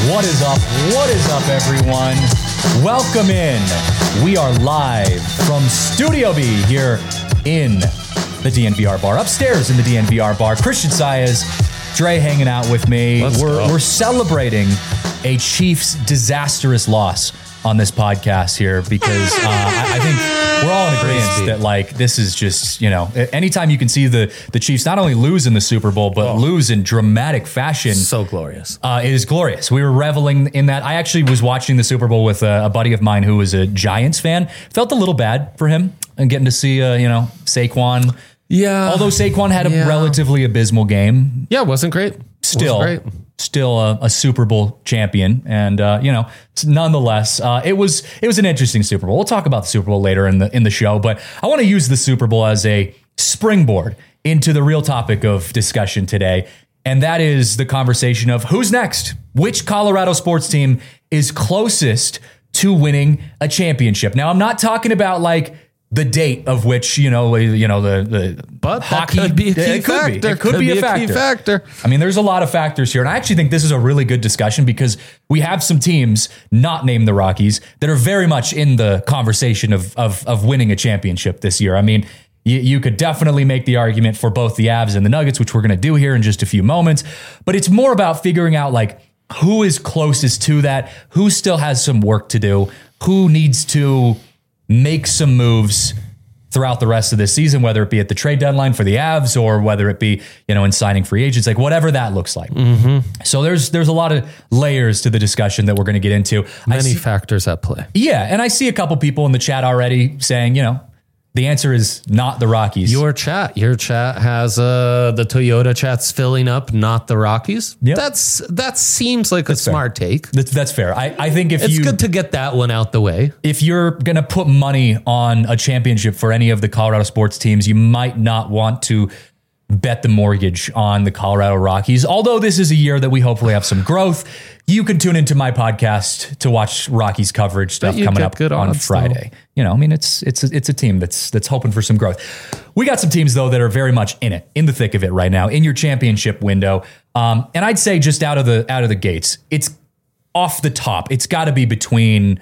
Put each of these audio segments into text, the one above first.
What is up? What is up, everyone? Welcome in. We are live from Studio B here in the DNVR bar. Upstairs in the DNVR bar, Christian Saez, Dre hanging out with me. We're celebrating a Chiefs disastrous loss on this podcast here because I think we're all in agreement that like this is just, anytime you can see the Chiefs not only lose in the Super Bowl, but lose in dramatic fashion. So glorious. It is glorious. We were reveling in that. I actually was watching the Super Bowl with a buddy of mine who was a Giants fan. Felt a little bad for him and getting to see, Saquon. Yeah. Although Saquon had a relatively abysmal game. Yeah, it wasn't great. Still a Super Bowl champion. And, nonetheless, it was an interesting Super Bowl. We'll talk about the Super Bowl later in the show, but I want to use the Super Bowl as a springboard into the real topic of discussion today. And that is the conversation of who's next? Which Colorado sports team is closest to winning a championship? Now, I'm not talking about like the date of which, but hockey could be a key factor. It could be a key factor. I mean, there's a lot of factors here. And I actually think this is a really good discussion because we have some teams not named the Rockies that are very much in the conversation of winning a championship this year. I mean, you could definitely make the argument for both the Avs and the Nuggets, which we're going to do here in just a few moments. But it's more about figuring out like who is closest to that, who still has some work to do, who needs to make some moves throughout the rest of this season, whether it be at the trade deadline for the Avs or whether it be, in signing free agents, like whatever that looks like. Mm-hmm. So there's a lot of layers to the discussion that we're going to get into. Many factors at play. Yeah. And I see a couple people in the chat already saying, the answer is not the Rockies. Your chat has the Toyota chat's filling up, not the Rockies. Yep. That seems like a smart take. That's fair. I think it's good to get that one out the way. If you're going to put money on a championship for any of the Colorado sports teams, you might not want to bet the mortgage on the Colorado Rockies. Although this is a year that we hopefully have some growth, you can tune into my podcast to watch Rockies coverage stuff coming up on Friday. It's a team that's hoping for some growth. We got some teams though that are very much in the thick of it right now in your championship window. And I'd say just out of the gates, it's off the top. It's got to be between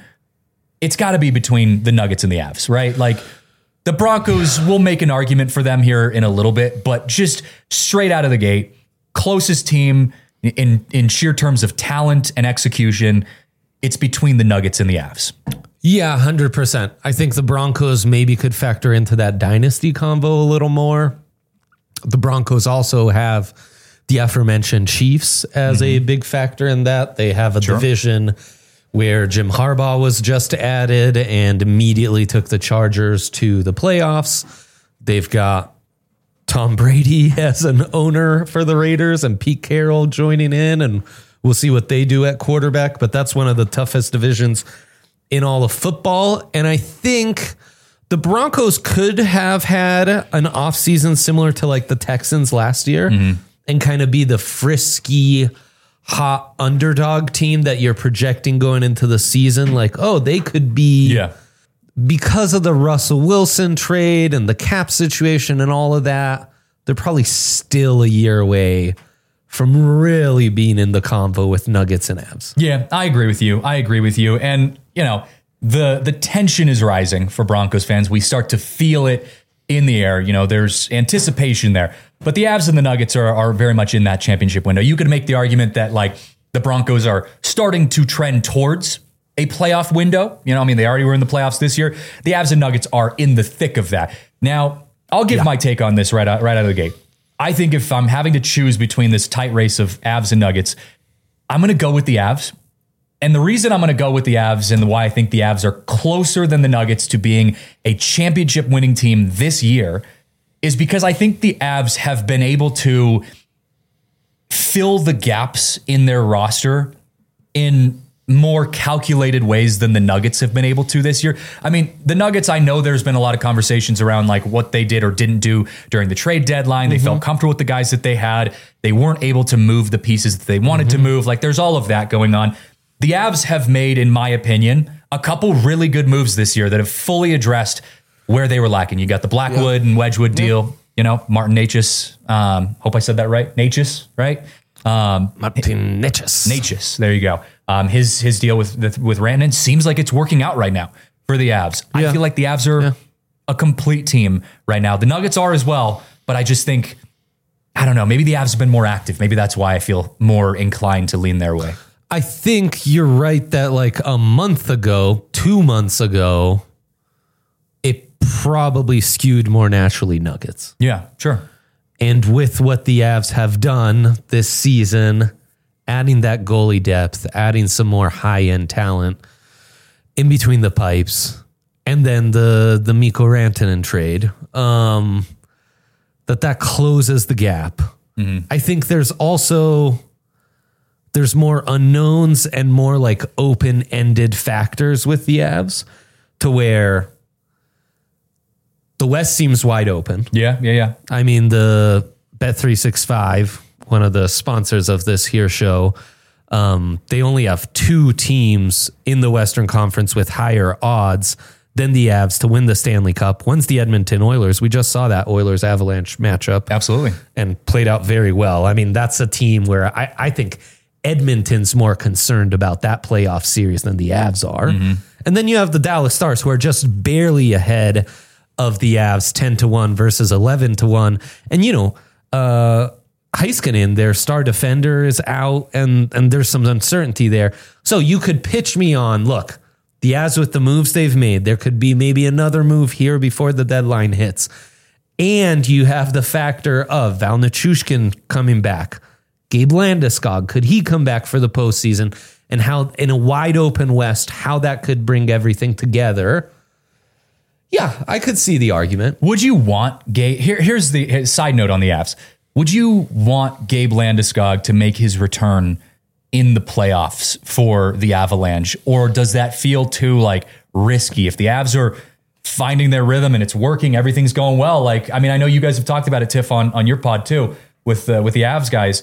the Nuggets and the Avs, right? Like the Broncos, we'll make an argument for them here in a little bit, but just straight out of the gate, closest team in sheer terms of talent and execution, it's between the Nuggets and the Avs. Yeah, 100%. I think the Broncos maybe could factor into that dynasty convo a little more. The Broncos also have the aforementioned Chiefs as a big factor in that. They have a division where Jim Harbaugh was just added and immediately took the Chargers to the playoffs. They've got Tom Brady as an owner for the Raiders and Pete Carroll joining in, and we'll see what they do at quarterback. But that's one of the toughest divisions in all of football. And I think the Broncos could have had an offseason similar to like the Texans last year and kind of be the frisky, hot underdog team that you're projecting going into the season. Like, they could be, because of the Russell Wilson trade and the cap situation and all of that, they're probably still a year away from really being in the convo with Nuggets and Avs. Yeah, I agree with you. And, the tension is rising for Broncos fans. We start to feel it in the air. There's anticipation there. But the Avs and the Nuggets are very much in that championship window. You could make the argument that like the Broncos are starting to trend towards a playoff window. They already were in the playoffs this year. The Avs and Nuggets are in the thick of that. Now, I'll give my take on this right out of the gate. I think if I'm having to choose between this tight race of Avs and Nuggets, I'm going to go with the Avs. And the reason I'm going to go with the Avs and why I think the Avs are closer than the Nuggets to being a championship winning team this year is because I think the Avs have been able to fill the gaps in their roster in more calculated ways than the Nuggets have been able to this year. I mean, the Nuggets, I know there's been a lot of conversations around like what they did or didn't do during the trade deadline. They felt comfortable with the guys that they had. They weren't able to move the pieces that they wanted to move. Like there's all of that going on. The Avs have made, in my opinion, a couple really good moves this year that have fully addressed where they were lacking. You got the Blackwood and Wedgwood deal, Martin Necas. Hope I said that right. Necas, right? Martin Necas. There you go. His deal with Rantanen seems like it's working out right now for the Avs. I feel like the Avs are a complete team right now. The Nuggets are as well, but I just think, I don't know, maybe the Avs have been more active. Maybe that's why I feel more inclined to lean their way. I think you're right that like a month ago, 2 months ago, it probably skewed more naturally Nuggets. Yeah, sure. And with what the Avs have done this season, adding that goalie depth, adding some more high-end talent in between the pipes, and then the Mikko Rantanen trade, that closes the gap. Mm-hmm. I think there's more unknowns and more like open-ended factors with the Avs to where the West seems wide open. Yeah. I mean, the Bet365, one of the sponsors of this here show, they only have 2 teams in the Western Conference with higher odds than the Avs to win the Stanley Cup. One's the Edmonton Oilers. We just saw that Oilers-Avalanche matchup. Absolutely. And played out very well. I mean, that's a team where I think Edmonton's more concerned about that playoff series than the Avs are. Mm-hmm. And then you have the Dallas Stars, who are just barely ahead of the Avs 10-1 versus 11-1. And, Heiskanen, their star defender, is out, and there's some uncertainty there. So you could pitch me on, look, the Avs with the moves they've made, there could be maybe another move here before the deadline hits. And you have the factor of Val Nichushkin coming back. Gabe Landeskog, could he come back for the postseason? And how, in a wide open West, how that could bring everything together. Yeah, I could see the argument. Would you want Gabe? Here's the side note on the Avs. Would you want Gabe Landeskog to make his return in the playoffs for the Avalanche? Or does that feel too risky? If the Avs are finding their rhythm and it's working, everything's going well. I know you guys have talked about it, Tiff, on your pod too, with the Avs guys.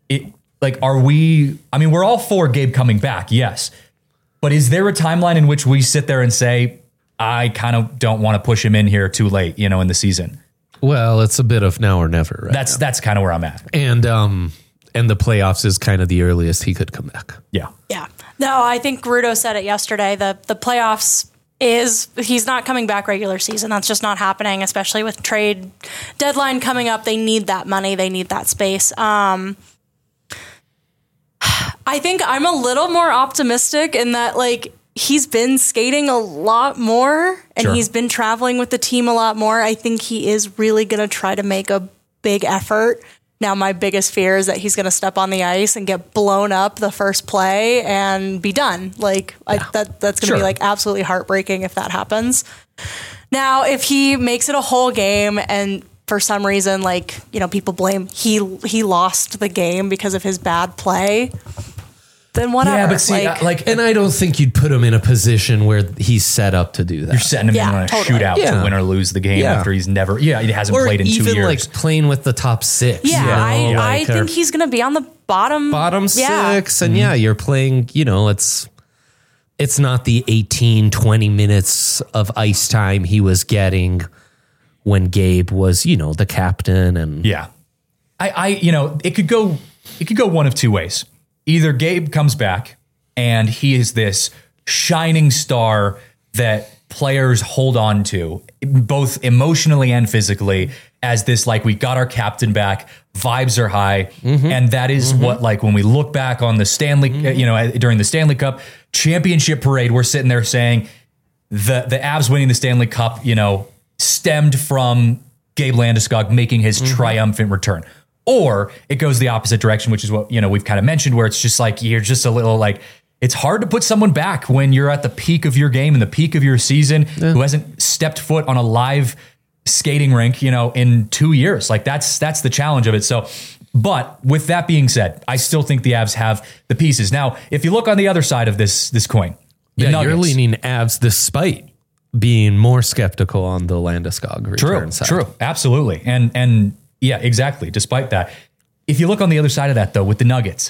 We're all for Gabe coming back, yes. But is there a timeline in which we sit there and say, I kind of don't want to push him in here too late, in the season? Well, it's a bit of now or never, right? That's kind of where I'm at. And the playoffs is kind of the earliest he could come back. Yeah. No, I think Rudo said it yesterday. The playoffs he's not coming back regular season. That's just not happening, especially with trade deadline coming up. They need that money. They need that space. I think I'm a little more optimistic in that, he's been skating a lot more and Sure. He's been traveling with the team a lot more. I think he is really going to try to make a big effort. Now, my biggest fear is that he's going to step on the ice and get blown up the first play and be done. That's going to be absolutely heartbreaking if that happens. Now, if he makes it a whole game and for some reason, people blame he lost the game because of his bad play, then whatever. Yeah, but see, and I don't think you'd put him in a position where he's set up to do that. You're setting him in on a shootout to win or lose the game after he's never, he hasn't played in 2 years. Or even playing with the top 6. Yeah, I think he's going to be on the bottom 6. And you're playing, it's not the 18, 20 minutes of ice time he was getting when Gabe was, the captain. And it could go one of 2 ways. Either Gabe comes back and he is this shining star that players hold on to, both emotionally and physically, as this, we got our captain back, vibes are high. Mm-hmm. And that is what, when we look back on the Stanley, during the Stanley Cup championship parade, we're sitting there saying the Avs winning the Stanley Cup, stemmed from Gabe Landeskog making his triumphant return. Or it goes the opposite direction, which is what, we've kind of mentioned, where it's just you're just a little it's hard to put someone back when you're at the peak of your game and the peak of your season who hasn't stepped foot on a live skating rink, in 2 years. That's the challenge of it. So, but with that being said, I still think the Avs have the pieces. Now, if you look on the other side of this coin, the Nuggets, you're leaning Avs despite being more skeptical on the Landeskog return side. True. Absolutely. And yeah, exactly. Despite that, if you look on the other side of that, though, with the Nuggets,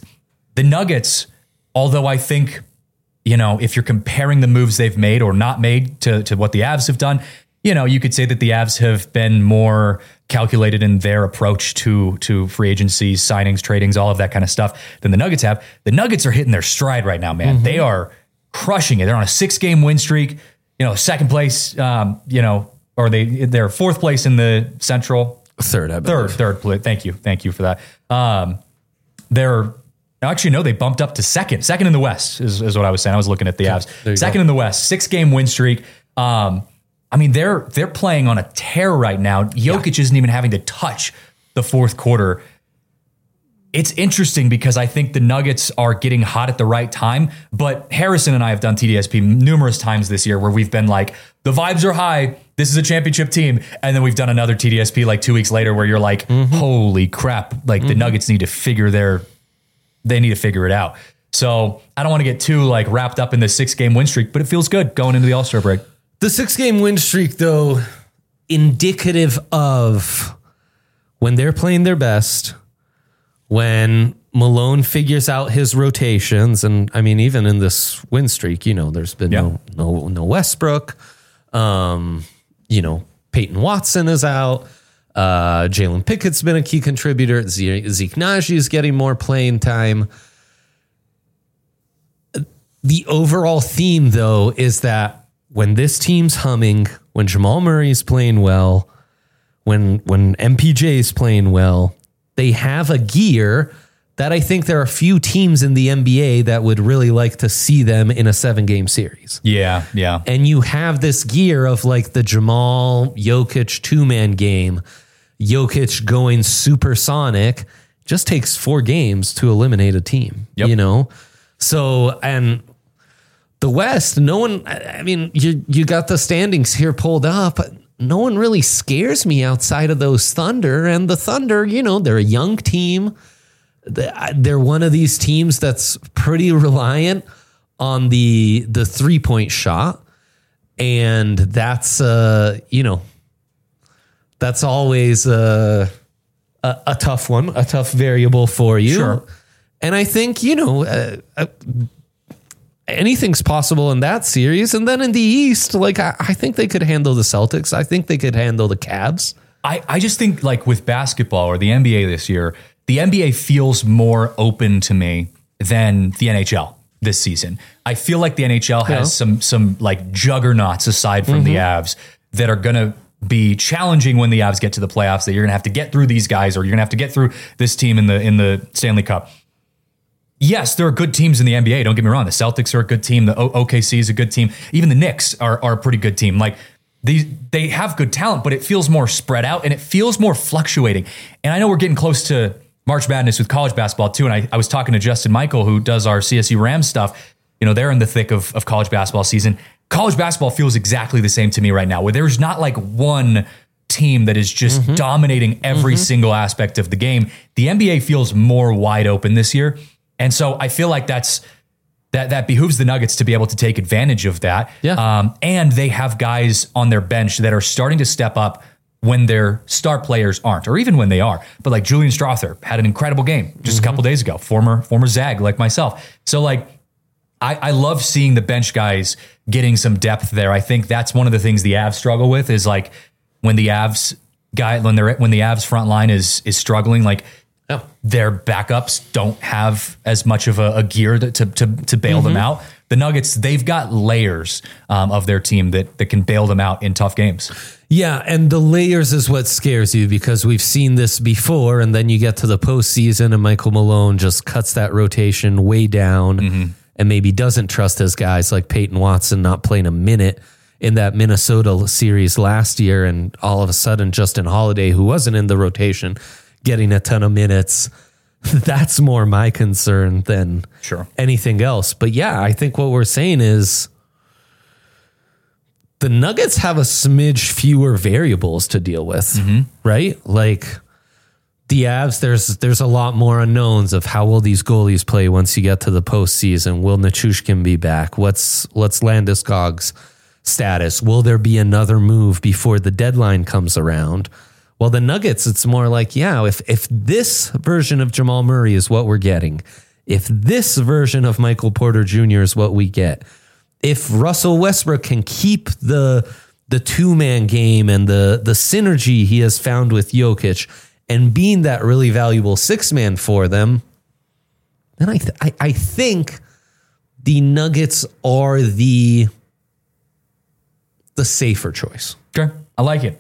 although I think, if you're comparing the moves they've made or not made to what the Avs have done, you could say that the Avs have been more calculated in their approach to free agency, signings, tradings, all of that kind of stuff than the Nuggets have. The Nuggets are hitting their stride right now, man. They are crushing it. They're on a 6-game win streak, second place, or they're fourth place in the Central. Third, I believe. Third. Thank you for that. They bumped up to second in the West is what I was saying. I was looking at the Avs. Second in the West, 6-game win streak. They're playing on a tear right now. Jokic isn't even having to touch the fourth quarter. It's interesting because I think the Nuggets are getting hot at the right time, but Harrison and I have done TDSP numerous times this year where we've been like, the vibes are high. This is a championship team. And then we've done another TDSP like 2 weeks later where you're like, holy crap. Like the Nuggets need to figure it out. So I don't want to get too like wrapped up in the 6-game win streak, but it feels good going into the All-Star break. The 6-game win streak, though, indicative of when they're playing their best, when Malone figures out his rotations, and I mean, even in this win streak, there's been no Westbrook. Peyton Watson is out. Jalen Pickett's been a key contributor. Zeke Naji is getting more playing time. The overall theme, though, is that when this team's humming, when Jamal Murray is playing well, when MPJ is playing well, they have a gear that I think there are a few teams in the NBA that would really like to see them in a 7-game series. Yeah. And you have this gear of like the Jamal Jokic 2-man game, Jokic going supersonic. Just takes 4 games to eliminate a team, So, and the West, no one, you got the standings here pulled up, but no one really scares me outside of those Thunder. And the Thunder, they're a young team. They're one of these teams that's pretty reliant on the 3-point shot. And that's, that's always a tough one, a tough variable for you. Sure. And I think, anything's possible in that series. And then in the East, like I think they could handle the Celtics. I think they could handle the Cavs. I just think like with basketball or the NBA this year, the NBA feels more open to me than the NHL this season. I feel like the NHL has some like juggernauts aside from the Avs that are going to be challenging when the Avs get to the playoffs, that you're going to have to get through these guys or you're going to have to get through this team in the Stanley Cup. Yes, there are good teams in the NBA. Don't get me wrong. The Celtics are a good team. The OKC is a good team. Even the Knicks are a pretty good team. Like they have good talent, but it feels more spread out and it feels more fluctuating. And I know we're getting close to March Madness with college basketball too. And I was talking to Justin Michael, who does our CSU Rams stuff. They're in the thick of college basketball season. College basketball feels exactly the same to me right now, where there's not like one team that is just dominating every single aspect of the game. The NBA feels more wide open this year. And so I feel like that behooves the Nuggets to be able to take advantage of that. Yeah. And they have guys on their bench that are starting to step up when their star players aren't, or even when they are. But like Julian Strother had an incredible game just a couple days ago, former Zag like myself. So like I love seeing the bench guys getting some depth there. I think that's one of the things the Avs struggle with is like when the Avs front line is struggling, like their backups don't have as much of a gear to bail them out. The Nuggets, they've got layers of their team that can bail them out in tough games. Yeah, and the layers is what scares you because we've seen this before, and then you get to the postseason and Michael Malone just cuts that rotation way down and maybe doesn't trust his guys like Peyton Watson not playing a minute in that Minnesota series last year, and all of a sudden Justin Holiday, who wasn't in the rotation, getting a ton of minutes. That's more my concern than anything else. But yeah, I think what we're saying is the Nuggets have a smidge fewer variables to deal with, right? Like the Avs, there's a lot more unknowns of how will these goalies play once you get to the postseason. Will Nichushkin be back? What's Landeskog's status? Will there be another move before the deadline comes around? Well, the Nuggets, it's more like, if this version of Jamal Murray is what we're getting, if this version of Michael Porter Jr. is what we get, if Russell Westbrook can keep the the two-man game and the synergy he has found with Jokic and being that really valuable six-man for them, then I think the Nuggets are the safer choice. Sure. I like it.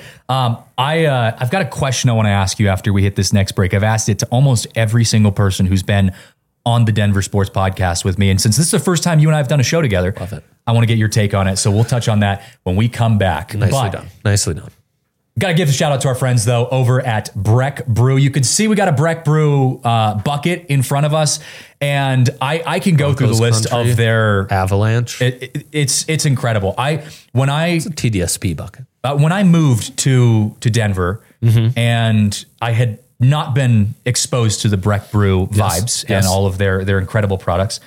I've got a question I want to ask you after we hit this next break. I've asked it to almost every single person who's been on the Denver Sports Podcast with me. And since this is the first time you and I have done a show together, love it. I want to get your take on it. So we'll touch on that when we come back. Nicely done. Got to give a shout out to our friends, though, over at Breck Brew. You can see we got a Breck Brew bucket in front of us, and I can go through the list of their Avalanche. It's incredible. It's a TDSP bucket. When I moved to Denver, and I had not been exposed to the Breck Brew vibes and all of their incredible products,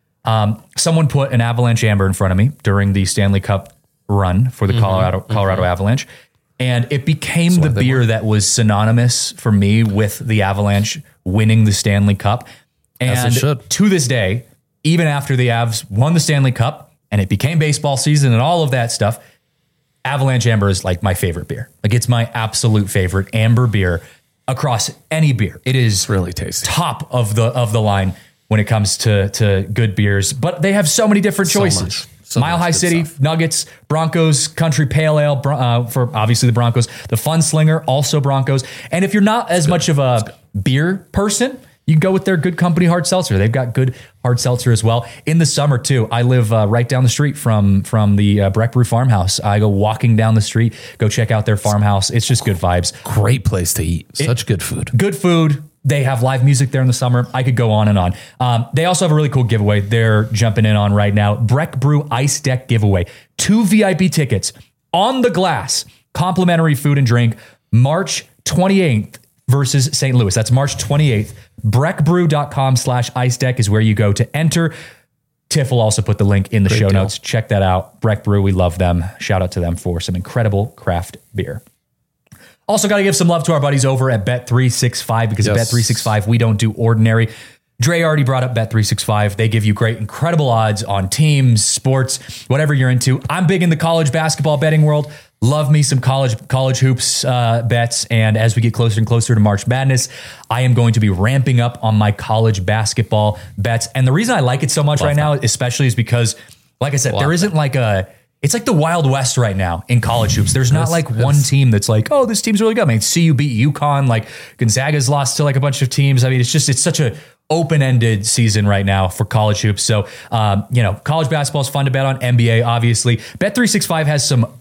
someone put an Avalanche Amber in front of me during the Stanley Cup run for the Colorado Avalanche. And it became the beer that was synonymous for me with the Avalanche winning the Stanley Cup. And to this day, even after the Avs won the Stanley Cup and it became baseball season and all of that stuff, Avalanche Amber is like my favorite beer. Like, it's my absolute favorite amber beer across any beer. It is really tasty. Top of the line when it comes to good beers. But they have so many different choices. Mile High City, stuff. Nuggets, Broncos, Country Pale Ale, for obviously the Broncos, the Fun Slinger, also Broncos. And if you're not as much of a beer person, you can go with their Good Company hard seltzer. They've got good hard seltzer as well. In the summer too, I live right down the street from the Breck Brew Farmhouse. I go walking down the street, go check out their farmhouse. It's just good vibes. Great place to eat. Such good food. Good food. They have live music there in the summer. I could go on and on. They also have a really cool giveaway they're jumping in on right now. Breck Brew Ice Deck giveaway. 2 VIP tickets on the glass. Complimentary food and drink. March 28th versus St. Louis. That's March 28th. BreckBrew.com/ice deck is where you go to enter. Tiff will also put the link in the show notes. Check that out. Breck Brew, we love them. Shout out to them for some incredible craft beer. Also got to give some love to our buddies over at Bet365 because at Bet365, we don't do ordinary. Dre already brought up Bet365. They give you great, incredible odds on teams, sports, whatever you're into. I'm big in the college basketball betting world. Love me some college hoops bets. And as we get closer and closer to March Madness, I am going to be ramping up on my college basketball bets. And the reason I like it so much now, especially, is because, like I said, there isn't like it's like the Wild West right now in college hoops. There's not like one team that's like, oh, this team's really good. I mean, CU beat UConn. Like, Gonzaga's lost to like a bunch of teams. I mean, it's such a open-ended season right now for college hoops. So, college basketball is fun to bet on. NBA, obviously. Bet365 has some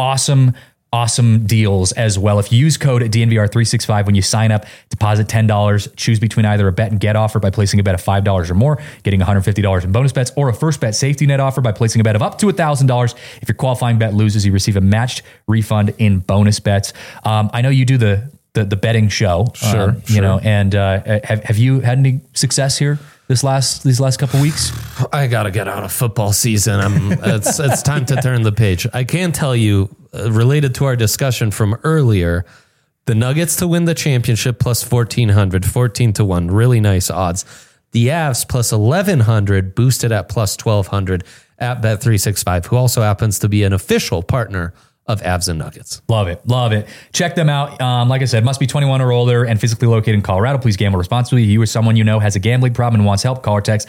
awesome deals as well. If you use code DNVR365 when you sign up, deposit $10, choose between either a bet and get offer by placing a bet of $5 or more, getting $150 in bonus bets, or a first bet safety net offer by placing a bet of up to $1,000. If your qualifying bet loses, you receive a matched refund in bonus bets. I know you do the betting show, sure. And have you had any success here these last couple weeks? I gotta get out of football season. It's time to turn the page. I can tell you, related to our discussion from earlier, the Nuggets to win the championship plus 1,400, 14-1, really nice odds. The Avs plus 1,100, boosted at plus 1,200 at Bet365, who also happens to be an official partner of Avs and Nuggets. Love it. Check them out. Like I said, must be 21 or older and physically located in Colorado. Please gamble responsibly. You or someone you know has a gambling problem and wants help, call or text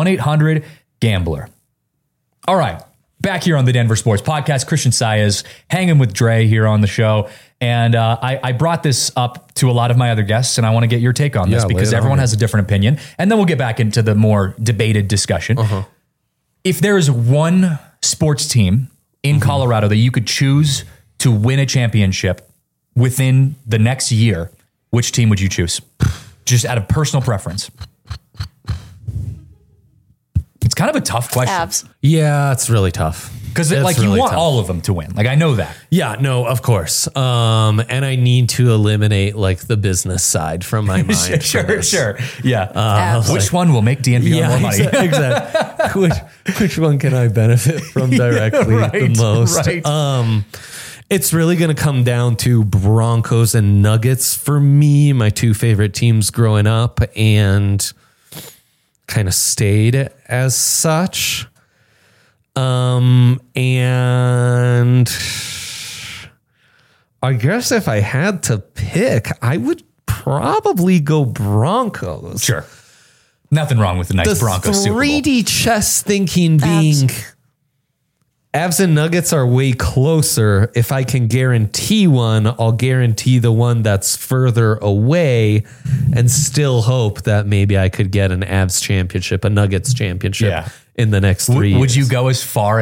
1-800-GAMBLER. All right, back here on the Denver Sports Podcast, Christian Saez hanging with Dre here on the show. And I brought this up to a lot of my other guests, and I want to get your take on this because everyone has a different opinion. And then we'll get back into the more debated discussion. If there is one sports team in Colorado that you could choose to win a championship within the next year, which team would you choose? Just out of personal preference. It's kind of a tough question. Avs. Yeah, it's really tough. Because you want all of them to win. Like, I know that. Yeah, no, of course. And I need to eliminate like the business side from my mind. Sure. Yeah. Which one will make DNVR more money? Exactly. Which one can I benefit from directly the most? Right. It's really going to come down to Broncos and Nuggets for me, my two favorite teams growing up, and kind of stayed as such. And I guess if I had to pick, I would probably go Broncos. Sure. Nothing wrong with the nice Broncos Super Bowl. 3D chess thinking being Avs and Nuggets are way closer. If I can guarantee one, I'll guarantee the one that's further away and still hope that maybe I could get an Avs championship, a Nuggets championship in the next 3 years. Would you go as far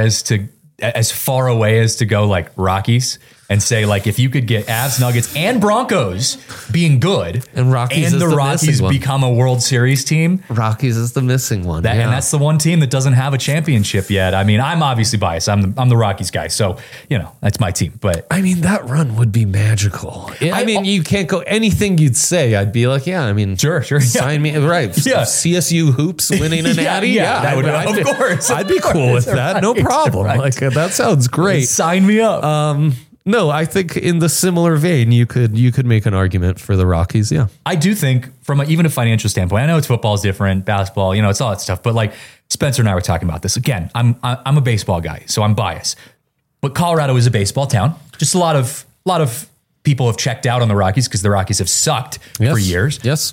away as to go like Rockies and say, like, if you could get Avs, Nuggets, and Broncos being good, and Rockies and the Rockies become a World Series team, Rockies is the missing one, and that's the one team that doesn't have a championship yet. I mean, I'm obviously biased. I'm the Rockies guy, so that's my team. But I mean, that run would be magical. I mean, you can't go anything you'd say. I'd be like, sure, sign me right. Yeah. CSU hoops winning an Natty. Of course, I'd be cool with that. No problem. Right. Like that sounds great. Sign me up. No, I think in the similar vein, you could make an argument for the Rockies. Yeah, I do think from even a financial standpoint. I know football is different, basketball, it's all that stuff. But like Spencer and I were talking about this again. I'm a baseball guy, so I'm biased. But Colorado is a baseball town. Just a lot of people have checked out on the Rockies because the Rockies have sucked for years. Yes.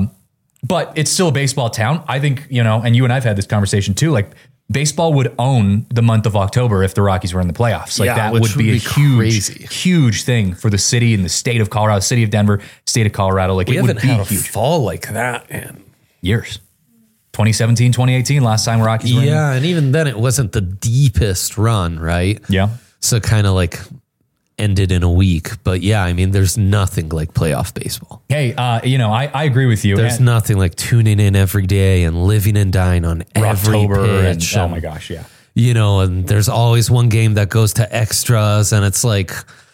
But it's still a baseball town. I think and you and I've had this conversation too. Like, baseball would own the month of October if the Rockies were in the playoffs. Like that would be a huge thing for the city and the state of Colorado, city of Denver, state of Colorado. Like, we it would be had a huge. fall like that in years. 2017, 2018, last time Rockies were in. Yeah, and even then it wasn't the deepest run, right? Yeah. So kind of like ended in a week. But yeah, I mean, there's nothing like playoff baseball. Hey, I agree with you. There's nothing like tuning in every day and living and dying on every pitch. Oh my gosh, yeah. And there's always one game that goes to extras and it's like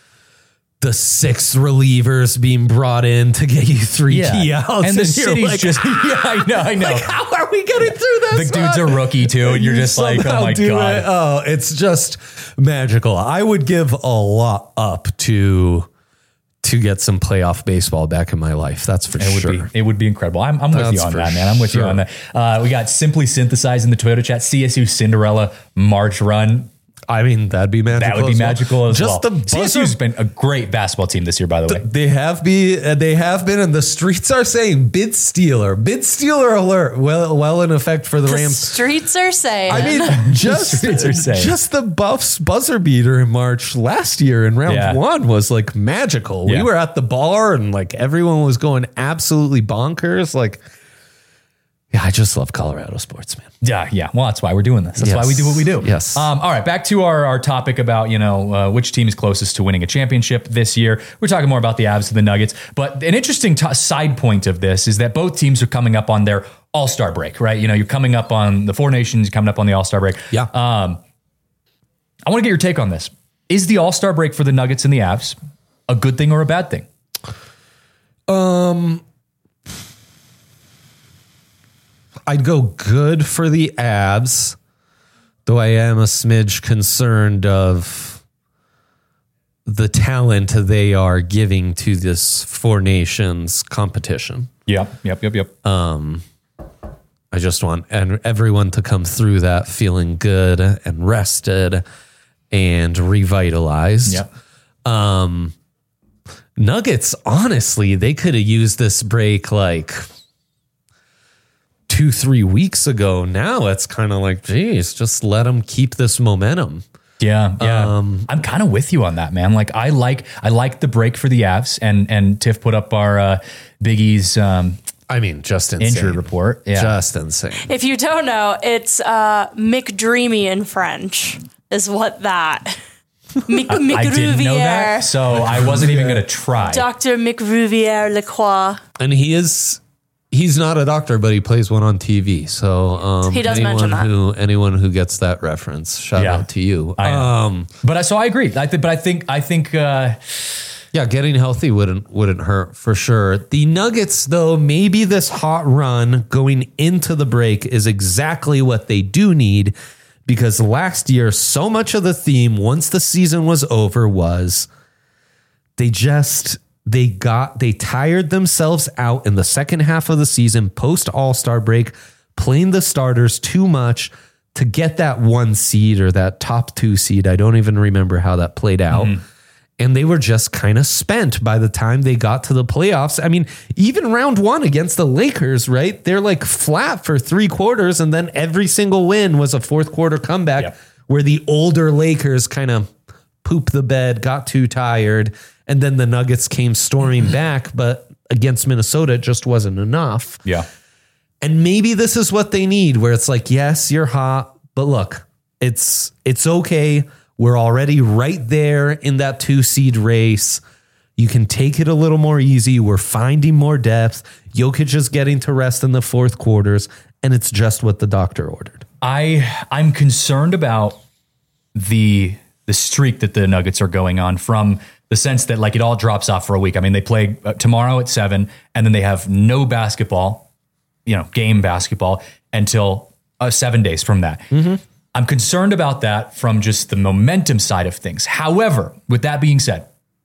the 6 relievers being brought in to get you 3 key outs. And the city's like, just, I know. Like, how are we getting through this? The dude's a rookie too. And you're just like, oh my God. Oh, it's just magical. I would give a lot up to get some playoff baseball back in my life. That's for sure. It would be incredible. I'm with you on that, man. I'm with you on that. We got Simply Synthesized in the Twitter chat. CSU Cinderella March Run. I mean, that'd be magical. That would be magical as well. CSU's been a great basketball team this year, by the way. They have been, and the streets are saying bid stealer alert. Well in effect for the Rams. Streets are saying. I mean, just the Buffs buzzer beater in March last year in round 1 was like magical. We were at the bar and like everyone was going absolutely bonkers. Like, yeah, I just love Colorado sports, man. Yeah. Well, that's why we're doing this. That's why we do what we do. Yes. All right, back to our topic about, which team is closest to winning a championship this year. We're talking more about the Avs and the Nuggets. But an interesting side point of this is that both teams are coming up on their All-Star break, right? You're coming up on the Four Nations, coming up on the All-Star break. Yeah. I want to get your take on this. Is the All-Star break for the Nuggets and the Avs a good thing or a bad thing? I'd go good for the Avs, though I am a smidge concerned of the talent they are giving to this Four Nations competition. Yep. I just want everyone to come through that feeling good and rested and revitalized. Yep. Nuggets, honestly, they could have used this break like 2-3 weeks ago. Now it's kind of like, geez, just let them keep this momentum. Yeah. I'm kind of with you on that, man. Like, I like the break for the Avs, and Tiff put up our Big E's just insane. Injury report. Yeah. Just insane. If you don't know, it's McDreamy in French is what that. I didn't know that, so I wasn't even going to try. Dr. McRuvier Lacroix. And he's not a doctor, but he plays one on TV. So he does mention that. Anyone who gets that reference, shout out to you. I agree. I think. Getting healthy wouldn't hurt for sure. The Nuggets, though, maybe this hot run going into the break is exactly what they do need, because last year, so much of the theme once the season was over was they tired themselves out in the second half of the season post All-Star break, playing the starters too much to get that 1 seed or that top 2 seed. I don't even remember how that played out. Mm-hmm. and they were just kind of spent by the time they got to the playoffs. I mean, even round one against the Lakers, right? They're like flat for 3 quarters, and then every single win was a fourth quarter comeback where the older Lakers kind of pooped the bed, got too tired, and then the Nuggets came storming back, but against Minnesota, it just wasn't enough. Yeah. And maybe this is what they need, where it's like, yes, you're hot, but look, it's okay. We're already right there in that 2 seed race. You can take it a little more easy. We're finding more depth. Jokic is getting to rest in the fourth quarters, and it's just what the doctor ordered. I'm concerned about the streak that the Nuggets are going on, from the sense that like it all drops off for a week. I mean, they play tomorrow at 7, and then they have no basketball, game basketball until 7 days from that. Mm-hmm. I'm concerned about that from just the momentum side of things. However, with that being said,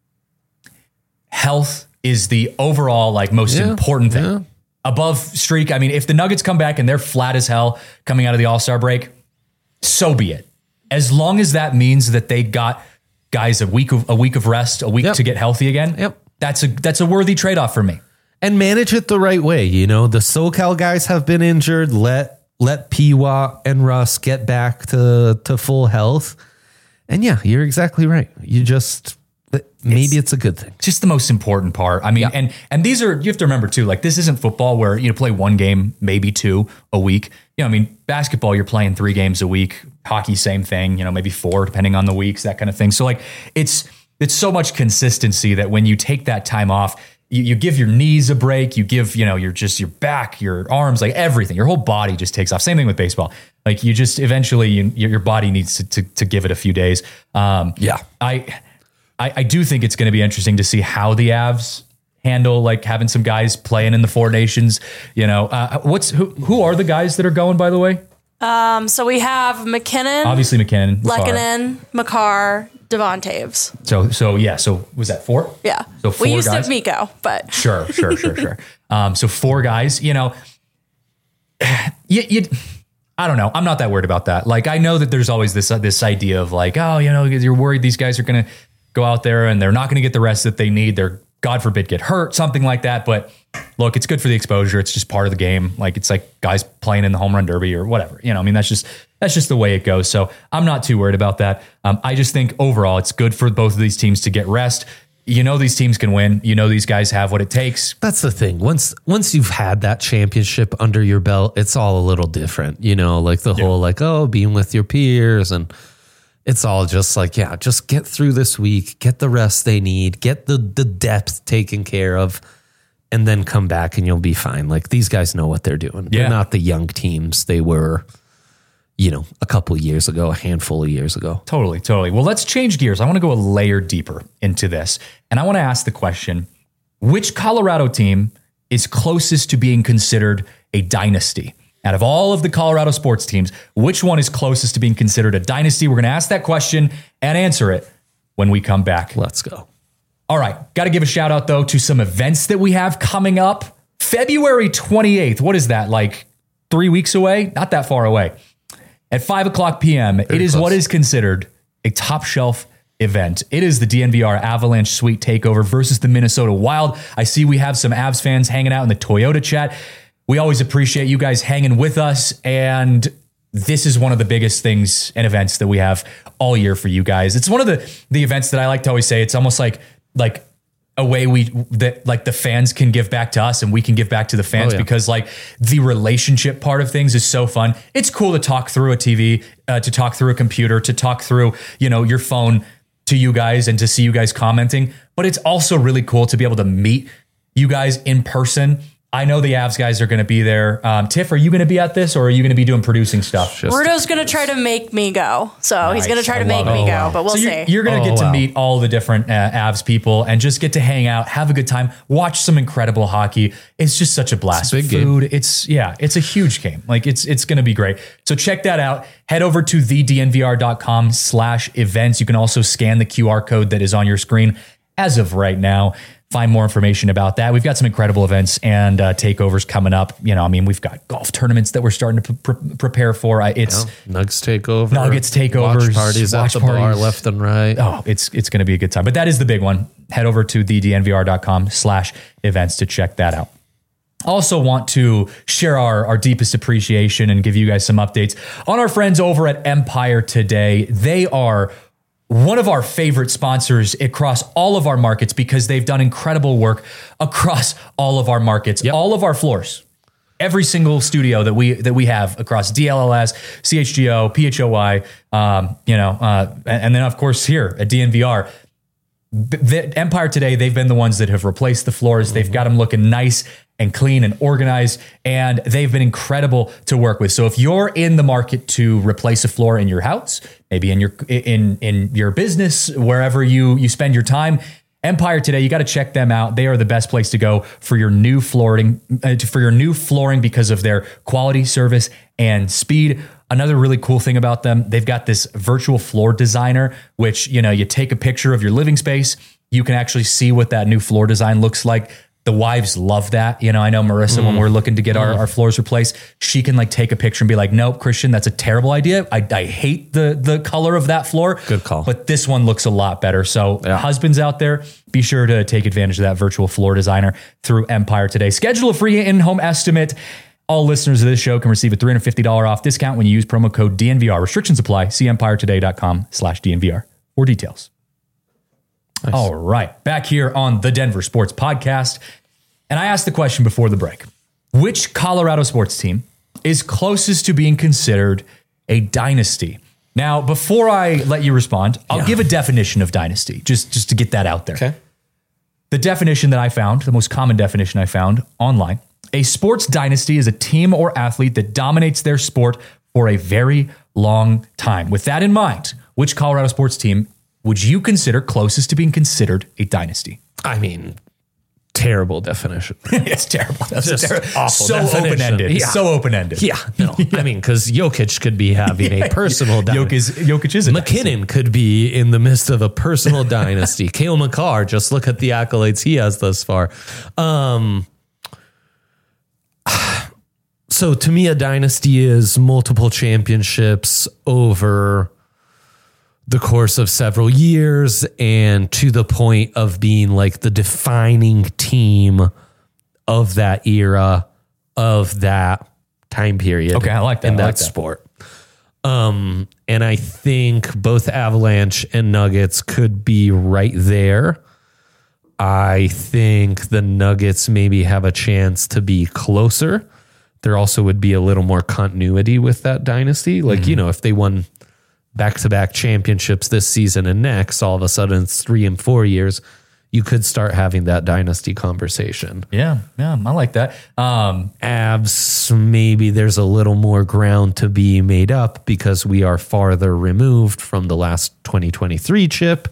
health is the overall most important thing. Yeah. Above streak, I mean, if the Nuggets come back and they're flat as hell coming out of the All-Star break, so be it. As long as that means that they got guys a week of rest, a week to get healthy again, that's a worthy trade-off for me. And manage it the right way. The SoCal guys have been injured. Let Piwa and Russ get back to full health. And yeah, you're exactly right. Maybe it's a good thing. Just the most important part. I mean, and these are, you have to remember too, this isn't football where you play 1 game, maybe 2 a week. Basketball, you're playing 3 games a week. Hockey, same thing, maybe 4 depending on the weeks, that kind of thing. So it's so much consistency that when you take that time off, you give your knees a break, you give, your back, your arms, everything, your whole body just takes off. Same thing with baseball. You just eventually your body needs to give it a few days. I do think it's going to be interesting to see how the Avs handle having some guys playing in the 4 nations. Who are the guys that are going, by the way? So we have McKinnon, obviously McKinnon, Lehkonen, Makar, Devon Taves. So was that 4? Yeah. So 4 we used guys? to have Miko, but sure. So 4 guys. I don't know. I'm not that worried about that. I know that there's always this idea of you're worried these guys are going to go out there and they're not going to get the rest that they need. They're, God forbid, get hurt, something like that. But look, it's good for the exposure. It's just part of the game. It's like guys playing in the home run derby or whatever. That's just the way it goes. So I'm not too worried about that. I just think overall it's good for both of these teams to get rest. These teams can win. These guys have what it takes. That's the thing. Once you've had that championship under your belt, it's all a little different. Whole being with your peers, and it's all just just get through this week, get the rest they need, get the depth taken care of, and then come back and you'll be fine. These guys know what they're doing. Yeah. They're not the young teams they were, a couple of years ago, a handful of years ago. Totally. Well, let's change gears. I want to go a layer deeper into this. And I want to ask the question, which Colorado team is closest to being considered a dynasty? Out of all of the Colorado sports teams, which one is closest to being considered a dynasty? We're going to ask that question and answer it when we come back. Let's go. All right. Got to give a shout out, though, to some events that we have coming up. February 28th. What is that? 3 weeks away? Not that far away. At 5:00 p.m., it is close. What is considered a top shelf event. It is the DNVR Avalanche Suite Takeover versus the Minnesota Wild. I see we have some Avs fans hanging out in the Toyota chat. We always appreciate you guys hanging with us, and this is one of the biggest things and events that we have all year for you guys. It's one of the events that I like to always say, it's almost like a way the fans can give back to us and we can give back to the fans because the relationship part of things is so fun. It's cool to talk through a TV, to talk through a computer, to talk through, your phone to you guys and to see you guys commenting, but it's also really cool to be able to meet you guys in person. I know the Avs guys are going to be there. Tiff, are you going to be at this, or are you going to to be doing producing stuff? Rudo's going to try to make me go. So nice. He's going to try to make me go, but we'll see. You're going to get to meet all the different Avs people and just get to hang out, have a good time, watch some incredible hockey. It's just such a blast. It's a big game. It's a huge game. It's going to be great. So check that out. Head over to thednvr.com/events. You can also scan the QR code that is on your screen as of right now. find more information about that. We've got some incredible events and takeovers coming up. We've got golf tournaments that we're starting to prepare for. Nuggets takeovers, watch parties at the bar left and right. Oh, it's going to be a good time. But that is the big one. Head over to thednvr.com/events to check that out. Also want to share our deepest appreciation and give you guys some updates on our friends over at Empire Today. They are one of our favorite sponsors across all of our markets because they've done incredible work across all of our markets, all of our floors. Every single studio that we have across DLLS, CHGO, PHOI, and then of course here at DNVR. The Empire Today, they've been the ones that have replaced the floors. They've got them looking nice and clean and organized, and they've been incredible to work with. So if you're in the market to replace a floor in your house, maybe in your business, wherever you spend your time, Empire Today, you got to check them out. They are the best place to go for your new flooring, because of their quality, service, and speed. Another really cool thing about them, they've got this virtual floor designer, which, you take a picture of your living space. You can actually see what that new floor design looks like. The wives love that. I know Marissa, when we're looking to get our floors replaced, she can take a picture and be like, nope, Christian, that's a terrible idea. I hate the color of that floor. Good call. But this one looks a lot better. So husbands out there, be sure to take advantage of that virtual floor designer through Empire Today. Schedule a free in-home estimate. All listeners of this show can receive a $350 off discount when you use promo code DNVR. Restrictions apply. See empiretoday.com/DNVR for details. Nice. All right. Back here on the Denver Sports Podcast. And I asked the question before the break. Which Colorado sports team is closest to being considered a dynasty? Now, before I let you respond, I'll give a definition of dynasty, just to get that out there. Okay. The definition that I found, the most common definition I found online, a sports dynasty is a team or athlete that dominates their sport for a very long time. With that in mind, which Colorado sports team would you consider closest to being considered a dynasty? I mean, terrible definition. It's terrible. That's just awful. So open-ended. Yeah. So open-ended. Yeah. No. I mean, because Jokic could be having a personal dynasty. Jokic is a McKinnon could be in the midst of a personal dynasty. Cale Makar, just look at the accolades he has thus far. So to me, a dynasty is multiple championships over the course of several years and to the point of being like the defining team of that era, of that time period. Okay, I like that. In that sport. And I think both Avalanche and Nuggets could be right there. I think the Nuggets maybe have a chance to be closer. There also would be a little more continuity with that dynasty. Like, if they won back-to-back championships this season and next, all of a sudden it's 3 and 4 years, you could start having that dynasty conversation. Yeah, I like that. Avs, maybe there's a little more ground to be made up because we are farther removed from the last 2023 chip.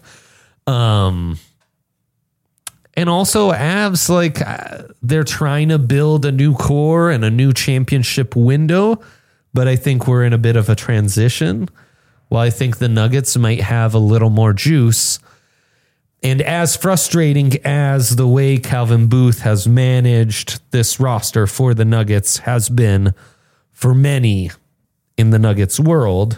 And also Avs, they're trying to build a new core and a new championship window, but I think we're in a bit of a transition. While I think the Nuggets might have a little more juice. And as frustrating as the way Calvin Booth has managed this roster for the Nuggets has been for many in the Nuggets world,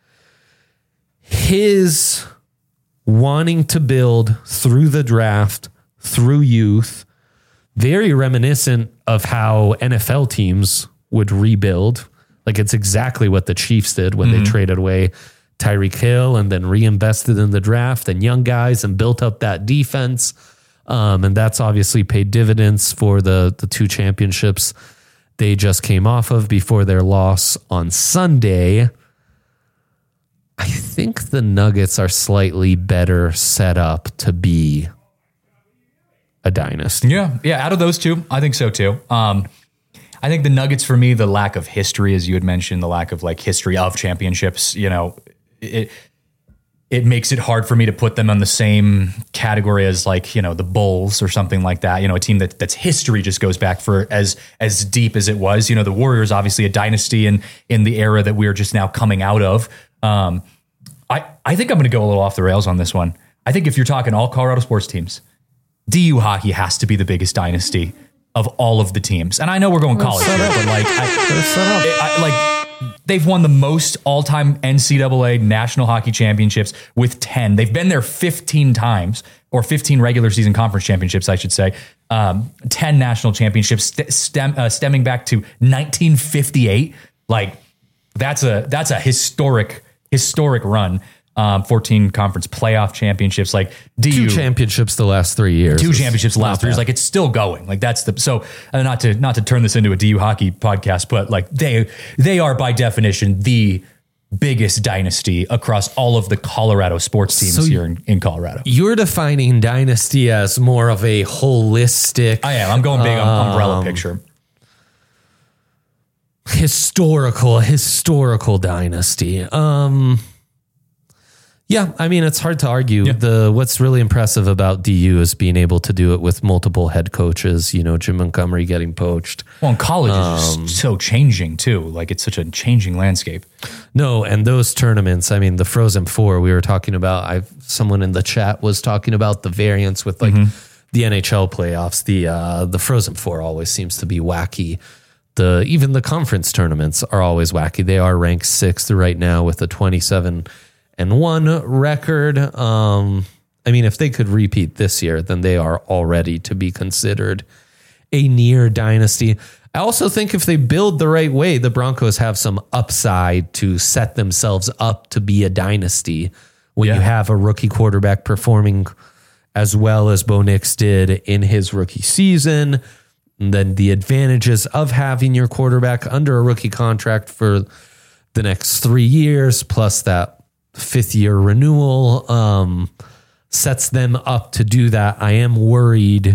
his wanting to build through the draft, through youth, very reminiscent of how NFL teams would rebuild. Like it's exactly what the Chiefs did when they traded away Tyreek Hill and then reinvested in the draft and young guys and built up that defense. And that's obviously paid dividends for the 2 championships they just came off of before their loss on Sunday. I think the Nuggets are slightly better set up to be a dynasty. Yeah. Out of those two, I think so too. I think the Nuggets, for me, the lack of history, as you had mentioned, the lack of history of championships, it makes it hard for me to put them on the same category as the Bulls or something like that. A team that's history just goes back for as deep as it was. The Warriors, obviously a dynasty in the era that we're just now coming out of. I think I'm going to go a little off the rails on this one. I think if you're talking all Colorado sports teams, DU hockey has to be the biggest dynasty of all of the teams. And I know we're going college here, but they've won the most all-time NCAA National Hockey Championships with 10. They've been there 15 times, or 15 regular season conference championships, I should say. 10 national championships stemming back to 1958. Like that's a historic run. 14 conference playoff championships, like DU. 2 championships the last 3 years. 2 championships the last 3 years. Like it's still going. Like that's not to turn this into a DU hockey podcast, but like they are by definition the biggest dynasty across all of the Colorado sports teams here in Colorado. You're defining dynasty as more of a holistic. I am. I'm going big on umbrella picture. Historical dynasty. Yeah, I mean, it's hard to argue. Yeah. What's really impressive about DU is being able to do it with multiple head coaches, Jim Montgomery getting poached. Well, and college is just so changing too. Like it's such a changing landscape. No, and those tournaments, I mean, the Frozen Four we were talking about, someone in the chat was talking about the variance with like the NHL playoffs. The Frozen Four always seems to be wacky. Even the conference tournaments are always wacky. They are ranked 6th right now with a 27-1 record. I mean, if they could repeat this year, then they are already to be considered a near dynasty. I also think if they build the right way, the Broncos have some upside to set themselves up to be a dynasty when you have a rookie quarterback performing as well as Bo Nix did in his rookie season. And then the advantages of having your quarterback under a rookie contract for the next 3 years, plus that 5th-year renewal, sets them up to do that. I am worried.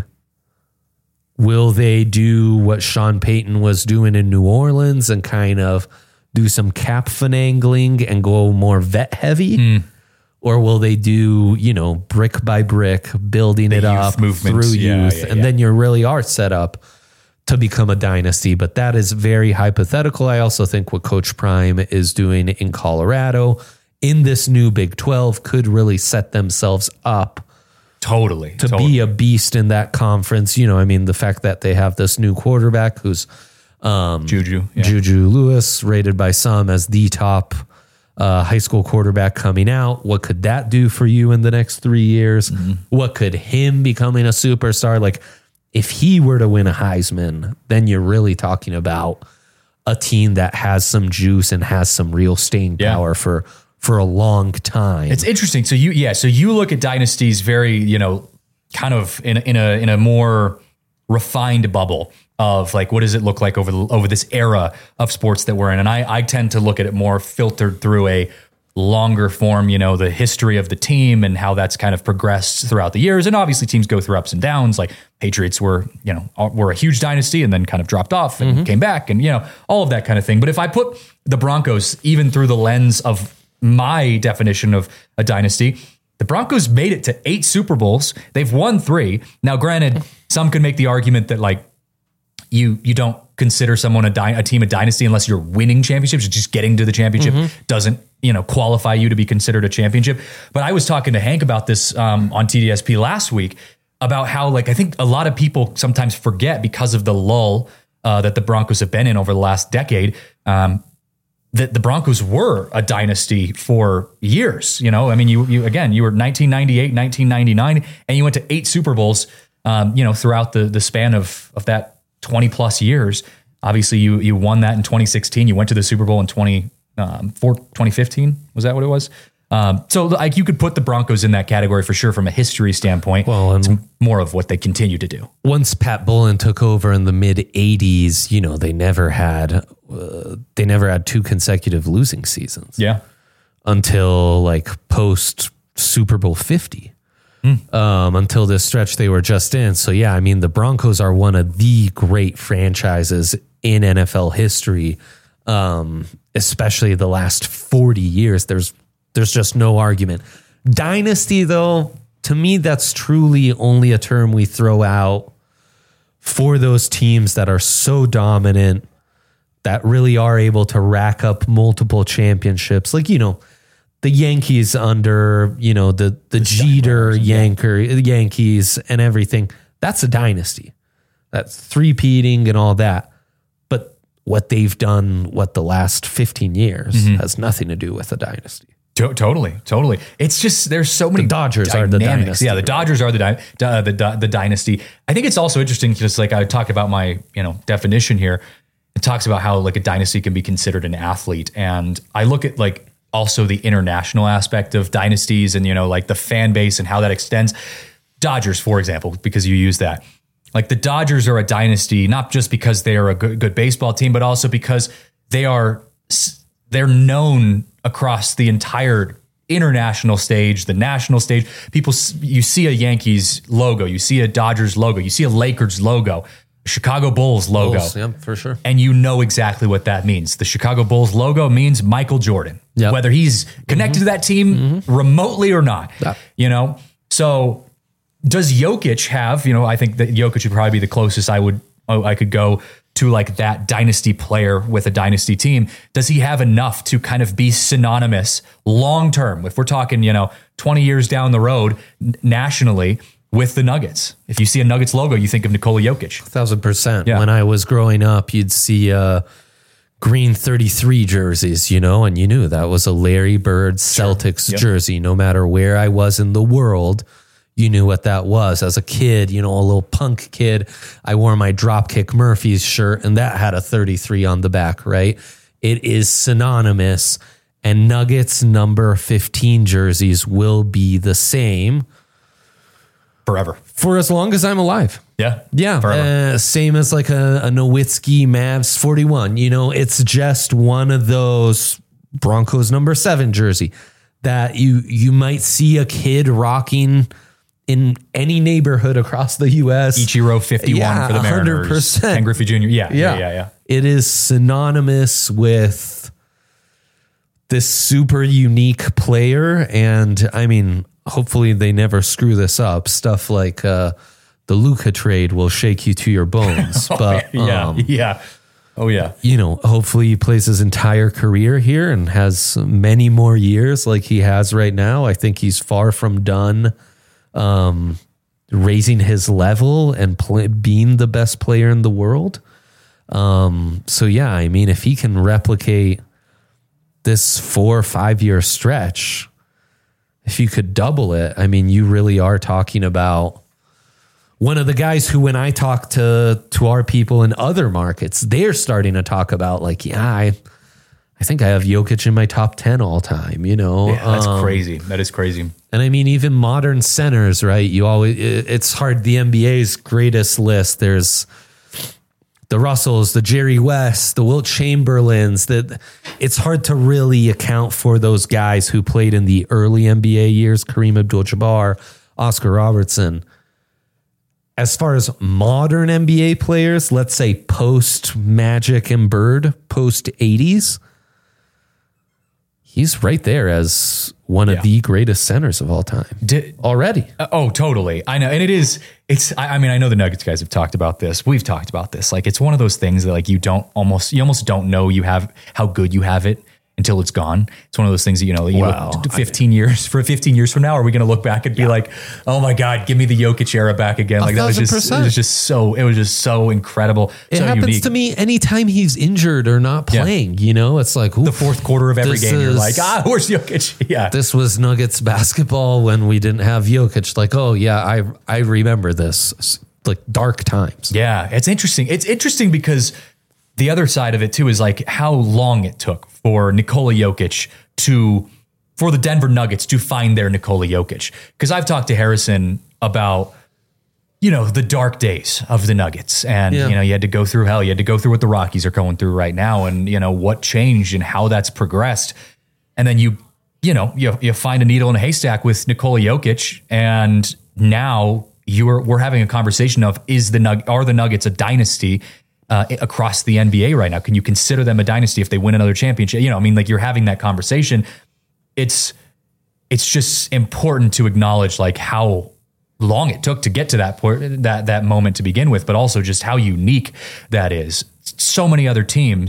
Will they do what Sean Payton was doing in New Orleans and kind of do some cap finagling and go more vet heavy? Or will they do, brick by brick, building it up through youth? And then you really are set up to become a dynasty. But that is very hypothetical. I also think what Coach Prime is doing in Colorado in this new Big 12 could really set themselves up to be a beast in that conference. The fact that they have this new quarterback who's Juju Lewis, rated by some as the top high school quarterback coming out. What could that do for you in the next 3 years? What could him becoming a superstar? Like if he were to win a Heisman, then you're really talking about a team that has some juice and has some real staying power for a long time. It's interesting. So you look at dynasties very, kind of in a more refined bubble of like, what does it look like over this era of sports that we're in? And I tend to look at it more filtered through a longer form, the history of the team and how that's kind of progressed throughout the years. And obviously teams go through ups and downs. Like Patriots were a huge dynasty and then kind of dropped off and came back and, all of that kind of thing. But if I put the Broncos even through the lens of my definition of a dynasty, the Broncos made it to 8 Super Bowls. They've won 3. Now, granted, some could make the argument that like you don't consider someone a team a dynasty unless you're winning championships. Just getting to the championship doesn't qualify you to be considered a championship. But I was talking to Hank about this on TDSP last week about how like I think a lot of people sometimes forget because of the lull that the Broncos have been in over the last decade. That the Broncos were a dynasty for years. You were 1998, 1999, and you went to 8 Super Bowls, throughout the span of that 20 plus years. Obviously you won that in 2016. You went to the Super Bowl in 2015. Was that what it was? So like you could put the Broncos in that category for sure from a history standpoint. Well, and it's more of what they continue to do. Once Pat Bullen took over in the mid 80s, they never had 2 consecutive losing seasons. Yeah. Until like post Super Bowl 50. Until this stretch they were just in. So yeah, I mean the Broncos are one of the great franchises in NFL history. Especially the last 40 years. There's just no argument. Dynasty, though, to me, that's truly only a term we throw out for those teams that are so dominant, that really are able to rack up multiple championships. Like, the the Yankees under, you know, the Jeter Yankees and everything. That's a dynasty. That's three-peating and all that. But what they've done, the last 15 years has nothing to do with a dynasty. Totally. It's just there's so many. The Dodgers are the dynasty. Yeah, the Dodgers are the dynasty. I think it's also interesting, just like I talked about my definition here. It talks about how like a dynasty can be considered an athlete, and I look at like also the international aspect of dynasties, and like the fan base and how that extends. Dodgers, for example, because you use that. Like the Dodgers are a dynasty, not just because they are a good baseball team, but also because they're known across the entire international stage, the national stage. You see a Yankees logo, you see a Dodgers logo, you see a Lakers logo, Chicago Bulls logo. Bulls, yeah, for sure. And you know exactly what that means. The Chicago Bulls logo means Michael Jordan, whether he's connected to that team remotely or not. Yeah. So does Jokic have, I think that Jokic would probably be the closest I could go to like that dynasty player with a dynasty team. Does he have enough to kind of be synonymous long-term? If we're talking, 20 years down the road nationally with the Nuggets. If you see a Nuggets logo, you think of Nikola Jokic. 1,000%. Yeah. When I was growing up, you'd see green 33 jerseys, and you knew that was a Larry Bird Celtics jersey. No matter where I was in the world, you knew what that was. As a kid, a little punk kid, I wore my Dropkick Murphys shirt, and that had a 33 on the back, right? It is synonymous, and Nuggets number 15 jerseys will be the same forever. For as long as I'm alive. Yeah. Yeah. Same as like a Nowitzki Mavs 41. It's just one of those Broncos number 7 jersey that you might see a kid rocking in any neighborhood across the U.S. Ichiro 51 for the Mariners. 100%. Ken Griffey Jr. Yeah. It is synonymous with this super unique player. And I mean, hopefully they never screw this up. Stuff like the Luka trade will shake you to your bones. But yeah. Oh yeah. Hopefully he plays his entire career here and has many more years like he has right now. I think he's far from done raising his level and being the best player in the world. So yeah, I mean, if he can replicate this 4 or 5 year stretch, if you could double it, I mean, you really are talking about one of the guys who, when I talk to our people in other markets, they're starting to talk about like, I think I have Jokic in my top 10 all time, Yeah, that's crazy. That is crazy. And I mean, even modern centers, right? It's hard. The NBA's greatest list. There's the Russells, the Jerry West, the Wilt Chamberlains. It's hard to really account for those guys who played in the early NBA years. Kareem Abdul-Jabbar, Oscar Robertson. As far as modern NBA players, let's say post Magic and Bird, post 80s, he's right there as one of the greatest centers of all time already. Totally. I know. And I know the Nuggets guys have talked about this. We've talked about this. Like, it's one of those things that like you almost don't know you have how good you have it until it's gone. It's one of those things that, 15 years from now, are we going to look back and be like, oh my God, give me the Jokic era back again. Like that was just so incredible. It so happens unique. to me anytime he's injured or not playing, it's like the fourth quarter of every game. You're like, where's Jokic? Yeah. This was Nuggets basketball when we didn't have Jokic. Like, oh yeah, I remember this, like dark times. Yeah. It's interesting. It's interesting because the other side of it too is like how long it took for Nikola Jokic for the Denver Nuggets to find their Nikola Jokic. Because I've talked to Harrison about, the dark days of the Nuggets. And, you had to go through hell. You had to go through what the Rockies are going through right now and, what changed and how that's progressed. And then you find a needle in a haystack with Nikola Jokic. And now we're having a conversation of are the Nuggets a dynasty across the NBA right now? Can you consider them a dynasty if they win another championship? You're having that conversation. It's just important to acknowledge like how long it took to get to that point, that moment to begin with, but also just how unique that is. So many other teams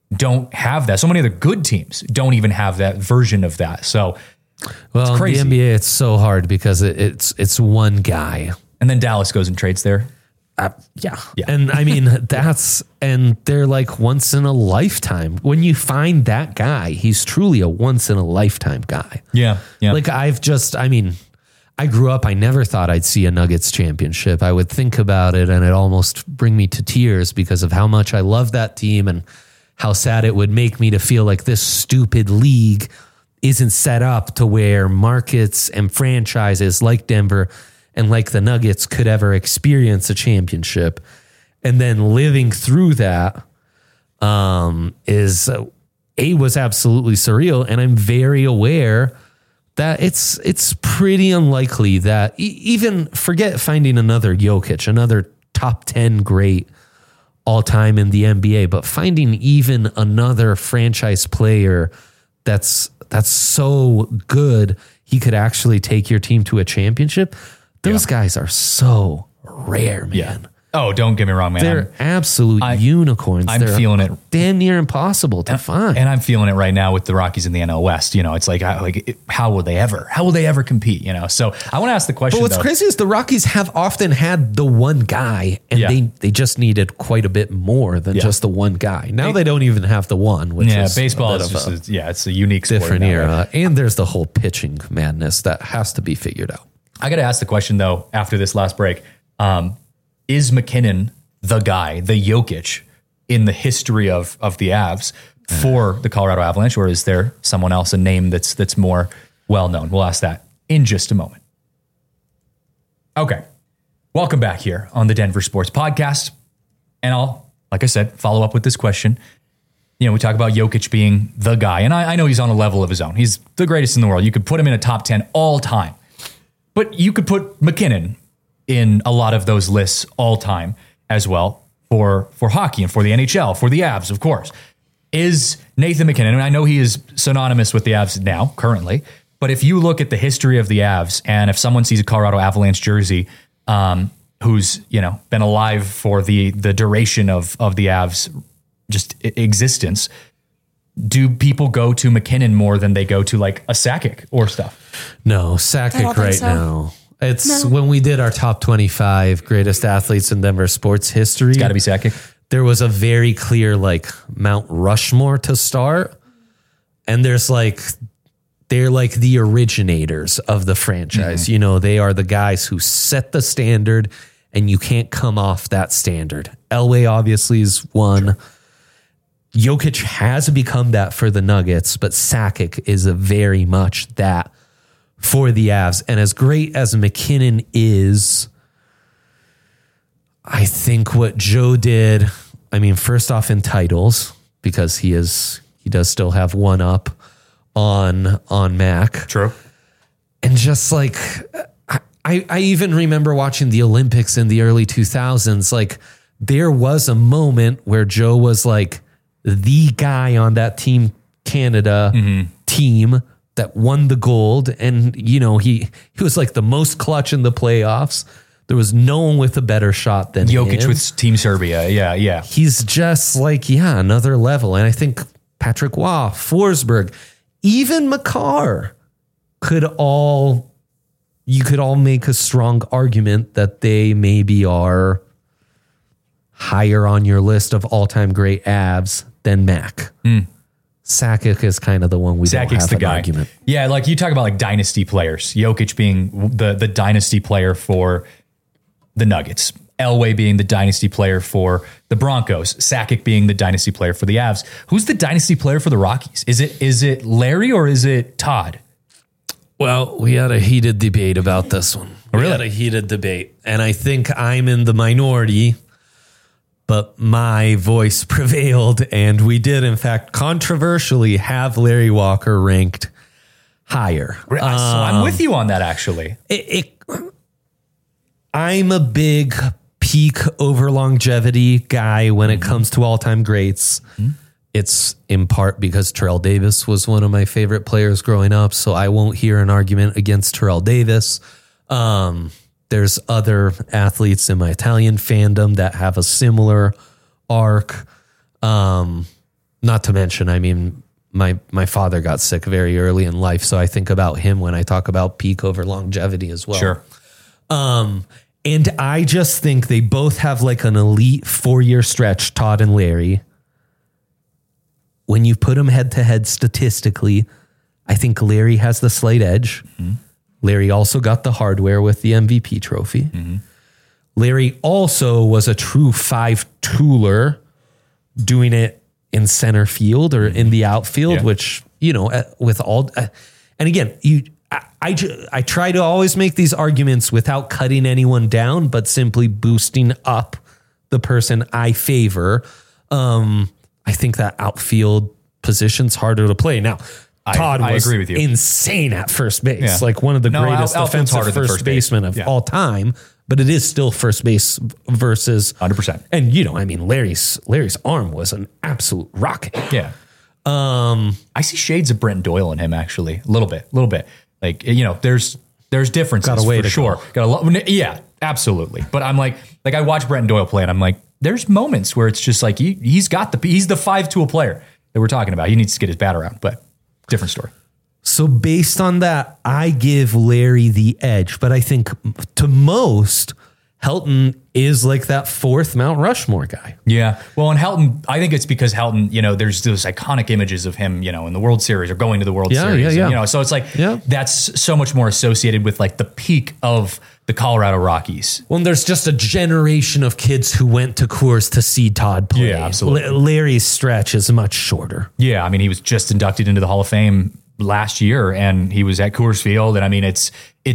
don't have that. So many other good teams don't even have that version of that. So Well, it's crazy. in the NBA, it's so hard because it's one guy. And then Dallas goes and trades there. Yeah. And I mean, and they're like once in a lifetime. When you find that guy, he's truly a once in a lifetime guy. Yeah. Yeah. Like I grew up, I never thought I'd see a Nuggets championship. I would think about it and it almost bring me to tears because of how much I love that team and how sad it would make me to feel like this stupid league isn't set up to where markets and franchises like Denver and like the Nuggets could ever experience a championship. And then living through that was absolutely surreal. And I'm very aware that it's pretty unlikely that even forget finding another Jokic, another top 10 great all time in the NBA, but finding even another franchise player that's so good he could actually take your team to a championship. Those guys are so rare, man. Yeah. Oh, don't get me wrong, man. They're absolute unicorns. I'm feeling it. Damn near impossible to find. And I'm feeling it right now with the Rockies in the NL West. You know, it's like how will they ever compete? You know, so I want to ask the question. But what's crazy is the Rockies have often had the one guy, and they just needed quite a bit more than just the one guy. Now they don't even have the one. Which is baseball is just it's a unique sport different era, and there's the whole pitching madness that has to be figured out. I got to ask the question though after this last break. Is McKinnon the guy, the Jokic, in the history of the Avs for the Colorado Avalanche, or is there someone else, a name that's more well known? We'll ask that in just a moment. Okay, welcome back here on the Denver Sports Podcast, and I'll, like I said, follow up with this question. You know, we talk about Jokic being the guy, and I know he's on a level of his own. He's the greatest in the world. You could put him in a top 10 all time, but you could put McKinnon in a lot of those lists all time as well for hockey and for the NHL, for the Avs, of course. Is Nathan McKinnon, and I know he is synonymous with the Avs now, currently, but if you look at the history of the Avs, and if someone sees a Colorado Avalanche jersey, who's, you know, been alive for the duration of the Avs just existence, do people go to McKinnon more than they go to like a Sakic or stuff? No, Sakic right now. It's when we did our top 25 greatest athletes in Denver sports history. It's got to be Sakic. There was a very clear like Mount Rushmore to start. And they're like the originators of the franchise. Mm-hmm. You know, they are the guys who set the standard and you can't come off that standard. Elway obviously is one. Sure. Jokic has become that for the Nuggets, but Sakic is a very much that for the Avs. And as great as McKinnon is, I think what Joe did, I mean, first off in titles, because he does still have one up on Mac. True. And just like, I even remember watching the Olympics in the early 2000s. Like there was a moment where Joe was like the guy on that Team Canada team that won the gold. And, you know, he was like the most clutch in the playoffs. There was no one with a better shot than Jokic him. with Team Serbia. Yeah. He's just like, another level. And I think Patrick Waugh, Forsberg, even Makar you could all make a strong argument that they maybe are higher on your list of all-time great Avs than Mac. Sakic is kind of the one we don't have an argument. Yeah, like you talk about like dynasty players. Jokic being the dynasty player for the Nuggets. Elway being the dynasty player for the Broncos. Sakic being the dynasty player for the Avs. Who's the dynasty player for the Rockies? Is it Larry or is it Todd? Well, we had a heated debate about this one. Really? We had a heated debate. And I think I'm in the minority, but my voice prevailed, and we did, in fact, controversially have Larry Walker ranked higher. So I'm with you on that, actually. I'm a big peak over longevity guy when it comes to all-time greats. It's in part because Terrell Davis was one of my favorite players growing up, so I won't hear an argument against Terrell Davis. There's other athletes in my Italian fandom that have a similar arc. Not to mention, I mean, my father got sick very early in life, so I think about him when I talk about peak over longevity as well. Sure. And I just think they both have like an elite 4-year stretch, Todd and Larry. When you put them head to head statistically, I think Larry has the slight edge. Mm-hmm. Larry also got the hardware with the MVP trophy. Mm-hmm. Larry also was a true 5-tooler doing it in center field or in the outfield, which, you know, with all, and again, I try to always make these arguments without cutting anyone down, but simply boosting up the person I favor. I think that outfield position's harder to play. Now, Todd was agree with you. Insane at first base, like one of the greatest defensive first basemen of all time. But it is still first base versus 100%. And you know, I mean, Larry's arm was an absolute rocket. Yeah. I see shades of Brent Doyle in him actually, a little bit. Like, you know, there's differences got a way for to sure. Yeah, absolutely. But I'm like I watch Brent Doyle play and I'm like, there's moments where it's just like he's the 5-tool player that we're talking about. He needs to get his bat around, but different story. So based on that, I give Larry the edge, but I think to most, Helton is like that fourth Mount Rushmore guy. Yeah. Well, and Helton, I think it's because Helton, you know, there's those iconic images of him, you know, in the World Series or going to the World Series. Yeah. You know, so it's like, that's so much more associated with like the peak of the Colorado Rockies. Well, there's just a generation of kids who went to Coors to see Todd play. Yeah, absolutely. Larry's stretch is much shorter. Yeah. I mean, he was just inducted into the Hall of Fame last year and he was at Coors Field. And I mean, it's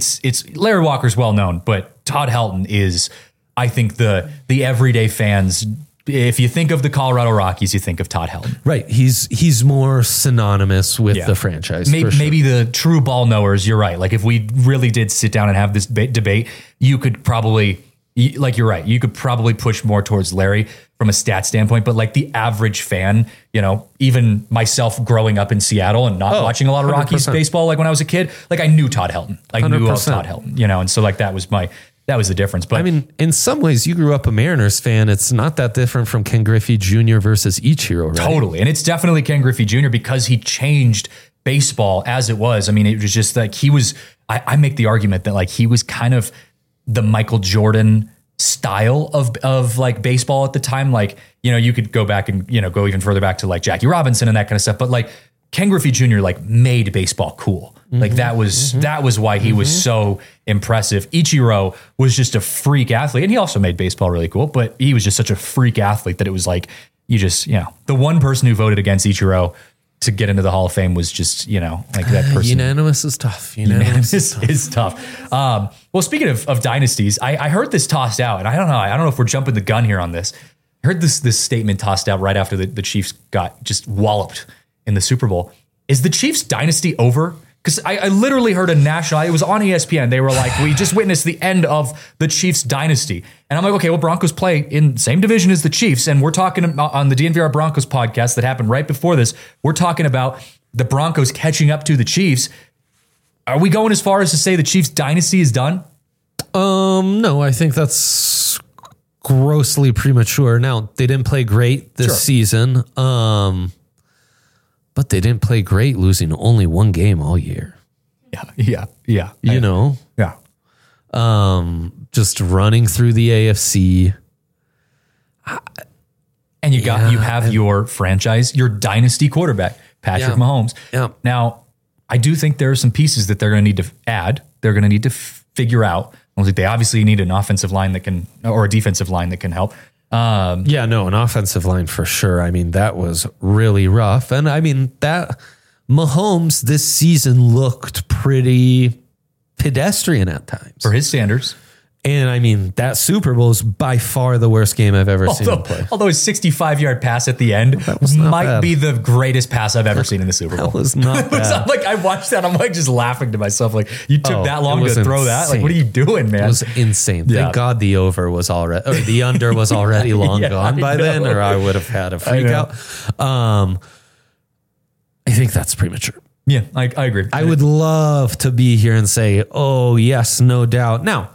Larry Walker's well known, but Todd Helton is, I think the everyday fans, if you think of the Colorado Rockies, you think of Todd Helton. Right. He's more synonymous with the franchise. Maybe the true ball knowers, you're right. Like if we really did sit down and have this debate, you could probably, like you're right, you could probably push more towards Larry from a stat standpoint, but like the average fan, you know, even myself growing up in Seattle and not watching a lot of 100%. Rockies baseball, like when I was a kid, like I knew Todd Helton. I knew of Todd Helton, you know, and so like that was the difference. But I mean, in some ways, you grew up a Mariners fan. It's not that different from Ken Griffey Jr. versus Ichiro, right? Totally. And it's definitely Ken Griffey Jr. because he changed baseball as it was. I mean, it was just like he was, I make the argument that like he was kind of the Michael Jordan style of like baseball at the time. Like, you know, you could go back and, you know, go even further back to like Jackie Robinson and that kind of stuff. But like Ken Griffey Jr. like made baseball cool. Like that was why he was so impressive. Ichiro was just a freak athlete and he also made baseball really cool, but he was just such a freak athlete that it was like, you just, you know, the one person who voted against Ichiro to get into the Hall of Fame was just, you know, like that person. Unanimous is tough. Unanimous is tough. Well, speaking of dynasties, I heard this tossed out and I don't know if we're jumping the gun here on this. I heard this statement tossed out right after the Chiefs got just walloped in the Super Bowl. Is the Chiefs dynasty over? Because I literally heard it was on ESPN. They were like, we just witnessed the end of the Chiefs dynasty. And I'm like, okay, well, Broncos play in the same division as the Chiefs. And we're talking about on the DNVR Broncos podcast that happened right before this. We're talking about the Broncos catching up to the Chiefs. Are we going as far as to say the Chiefs dynasty is done? No, I think that's grossly premature. Now, they didn't play great this season. But they didn't play great, losing only one game all year. Yeah. You know? Yeah. Just running through the AFC. And you have your franchise, your dynasty quarterback, Patrick Mahomes. Yeah. Now, I do think there are some pieces that they're going to need to add. They're going to need to figure out. They obviously need an offensive line or a defensive line that can help. An offensive line for sure. I mean, that was really rough. And I mean, that Mahomes this season looked pretty pedestrian at times. For his standards. And I mean, that Super Bowl is by far the worst game I've ever seen him play. Although his 65-yard pass at the end might be the greatest pass I've ever seen in the Super Bowl. That was not bad. Like, I watched that. I'm like just laughing to myself. Like, you took that long to throw that? Like, what are you doing, man? It was insane. Thank God the under was already long gone by then, or I would have had a freak out. I think that's premature. Yeah, I agree. I would love to be here and say, oh, yes, no doubt. Now,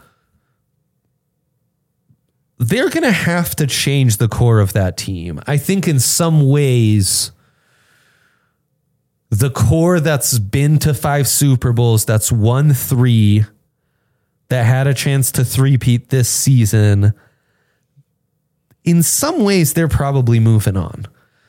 they're going to have to change the core of that team. I think in some ways, the core that's been to 5 Super Bowls, that's won 3, that had a chance to three-peat this season, in some ways, they're probably moving on.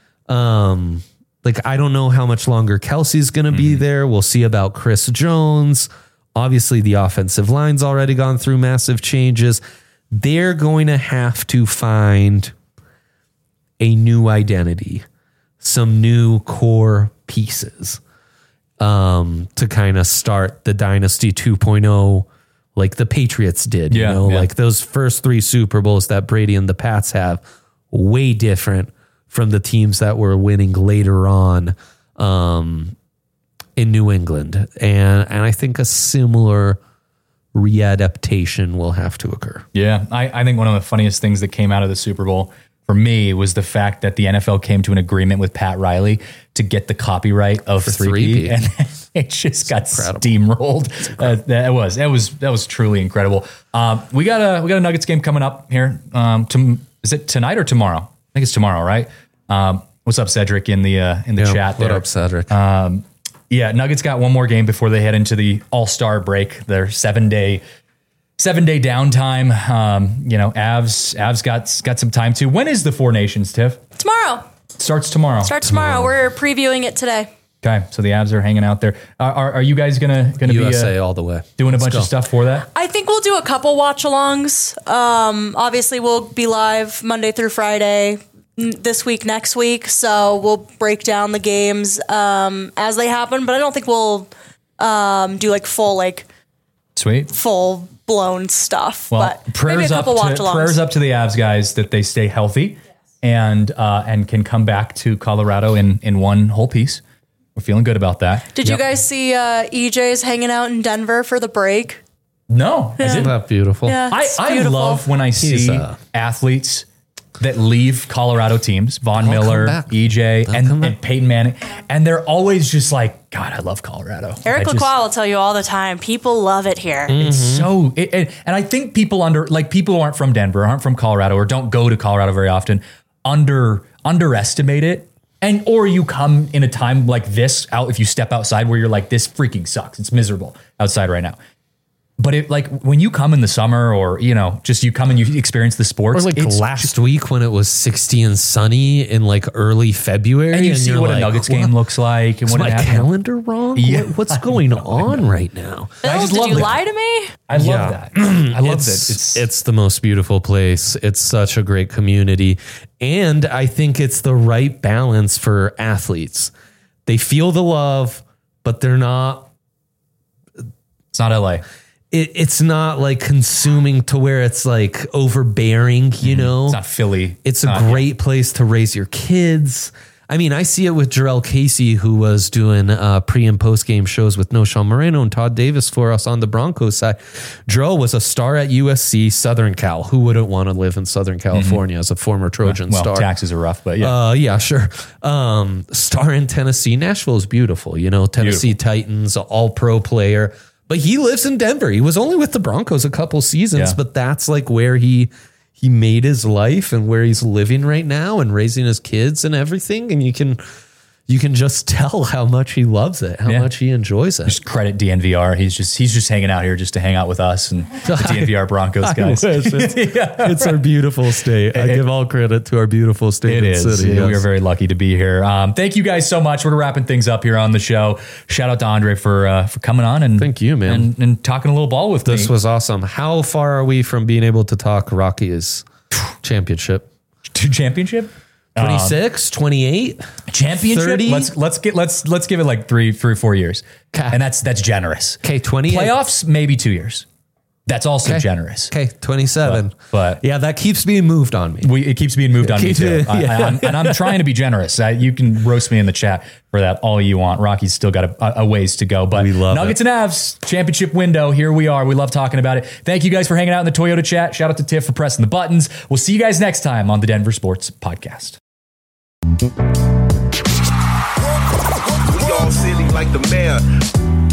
I don't know how much longer Kelsey's going to be there. We'll see about Chris Jones. Obviously, the offensive line's already gone through massive changes. They're going to have to find a new identity, some new core pieces to kind of start the Dynasty 2.0 like the Patriots did. Like those first 3 Super Bowls that Brady and the Pats have, way different from the teams that were winning later on in New England. And I think a similar readaptation will have to occur. Yeah, I think one of the funniest things that came out of the Super Bowl for me was the fact that the NFL came to an agreement with Pat Riley to get the copyright of 3P, and it just got steamrolled. That was truly incredible. We got a Nuggets game coming up here. Is it tonight or tomorrow? I think it's tomorrow, right? What's up, Cedric, in the chat there? What up, Cedric? Nuggets got one more game before they head into the All-Star break, their 7-day downtime. Avs got some time too. When is the Four Nations, Tiff? Tomorrow. Starts tomorrow. We're previewing it today. Okay, so the Avs are hanging out there. Are you guys gonna USA be all the way doing a bunch of stuff for that? I think we'll do a couple watch-alongs. Obviously, we'll be live Monday through Friday this week, next week. So we'll break down the games as they happen. But I don't think we'll do like full Sweet. Full blown stuff. Well, but maybe a couple watch-alongs. Prayers up to the Avs guys that they stay healthy and can come back to Colorado in one whole piece. We're feeling good about that. Did you guys see EJ's hanging out in Denver for the break? No. Isn't that beautiful? Yeah, I love when I see athletes that leave Colorado teams, Von Miller, EJ, and Peyton Manning, and they're always just like, God, I love Colorado. Eric LaCroix will tell you all the time, people love it here. It's so, and I think people who aren't from Denver, aren't from Colorado, or don't go to Colorado very often, underestimate it. Or you come in a time like this out, if you step outside where you're like, this freaking sucks. It's miserable outside right now. But when you come in the summer, or just you come and you experience the sports, or last week when it was 60 and sunny in early February, and you see what a Nuggets game looks like, and is what my calendar wrong? Yeah. What's going on right now? Bill, did you lie to me? I love that. I love it. It's the most beautiful place. It's such a great community, and I think it's the right balance for athletes. They feel the love, but they're not. It's not LA. It's not consuming to where it's overbearing, It's not Philly. It's a great place to raise your kids. I mean, I see it with Jarrell Casey, who was doing pre and post game shows with No Sean Moreno and Todd Davis for us on the Broncos side. Jarrell was a star at USC, Southern Cal. Who wouldn't want to live in Southern California as a former Trojan star? Taxes are rough, but yeah. Yeah, sure. Star in Tennessee. Nashville is beautiful. Tennessee Titans, all pro player. But he lives in Denver. He was only with the Broncos a couple seasons, but that's where he made his life and where he's living right now and raising his kids and everything. And you can just tell how much he loves it, how much he enjoys it. Just credit DNVR. He's just hanging out here just to hang out with us and the DNVR Broncos guys. It's our beautiful state. I give all credit to our beautiful state and city. Yes. We are very lucky to be here. Thank you guys so much. We're wrapping things up here on the show. Shout out to Andre for coming on and thank you, man, and talking a little ball with me. This was awesome. How far are we from being able to talk Rockies championship? Championship? 26, 28, championship. 30? Let's give it 3 or 4 years, and that's generous. Okay, 28 playoffs, maybe 2 years. That's also generous. Okay, 27. But yeah, that keeps being moved on me. It keeps being moved on me too. And I'm trying to be generous. You can roast me in the chat for that all you want. Rocky's still got a ways to go, but we love Nuggets and Avs championship window. Here we are. We love talking about it. Thank you guys for hanging out in the Toyota chat. Shout out to Tiff for pressing the buttons. We'll see you guys next time on the Denver Sports Podcast. We all silly like the mayor.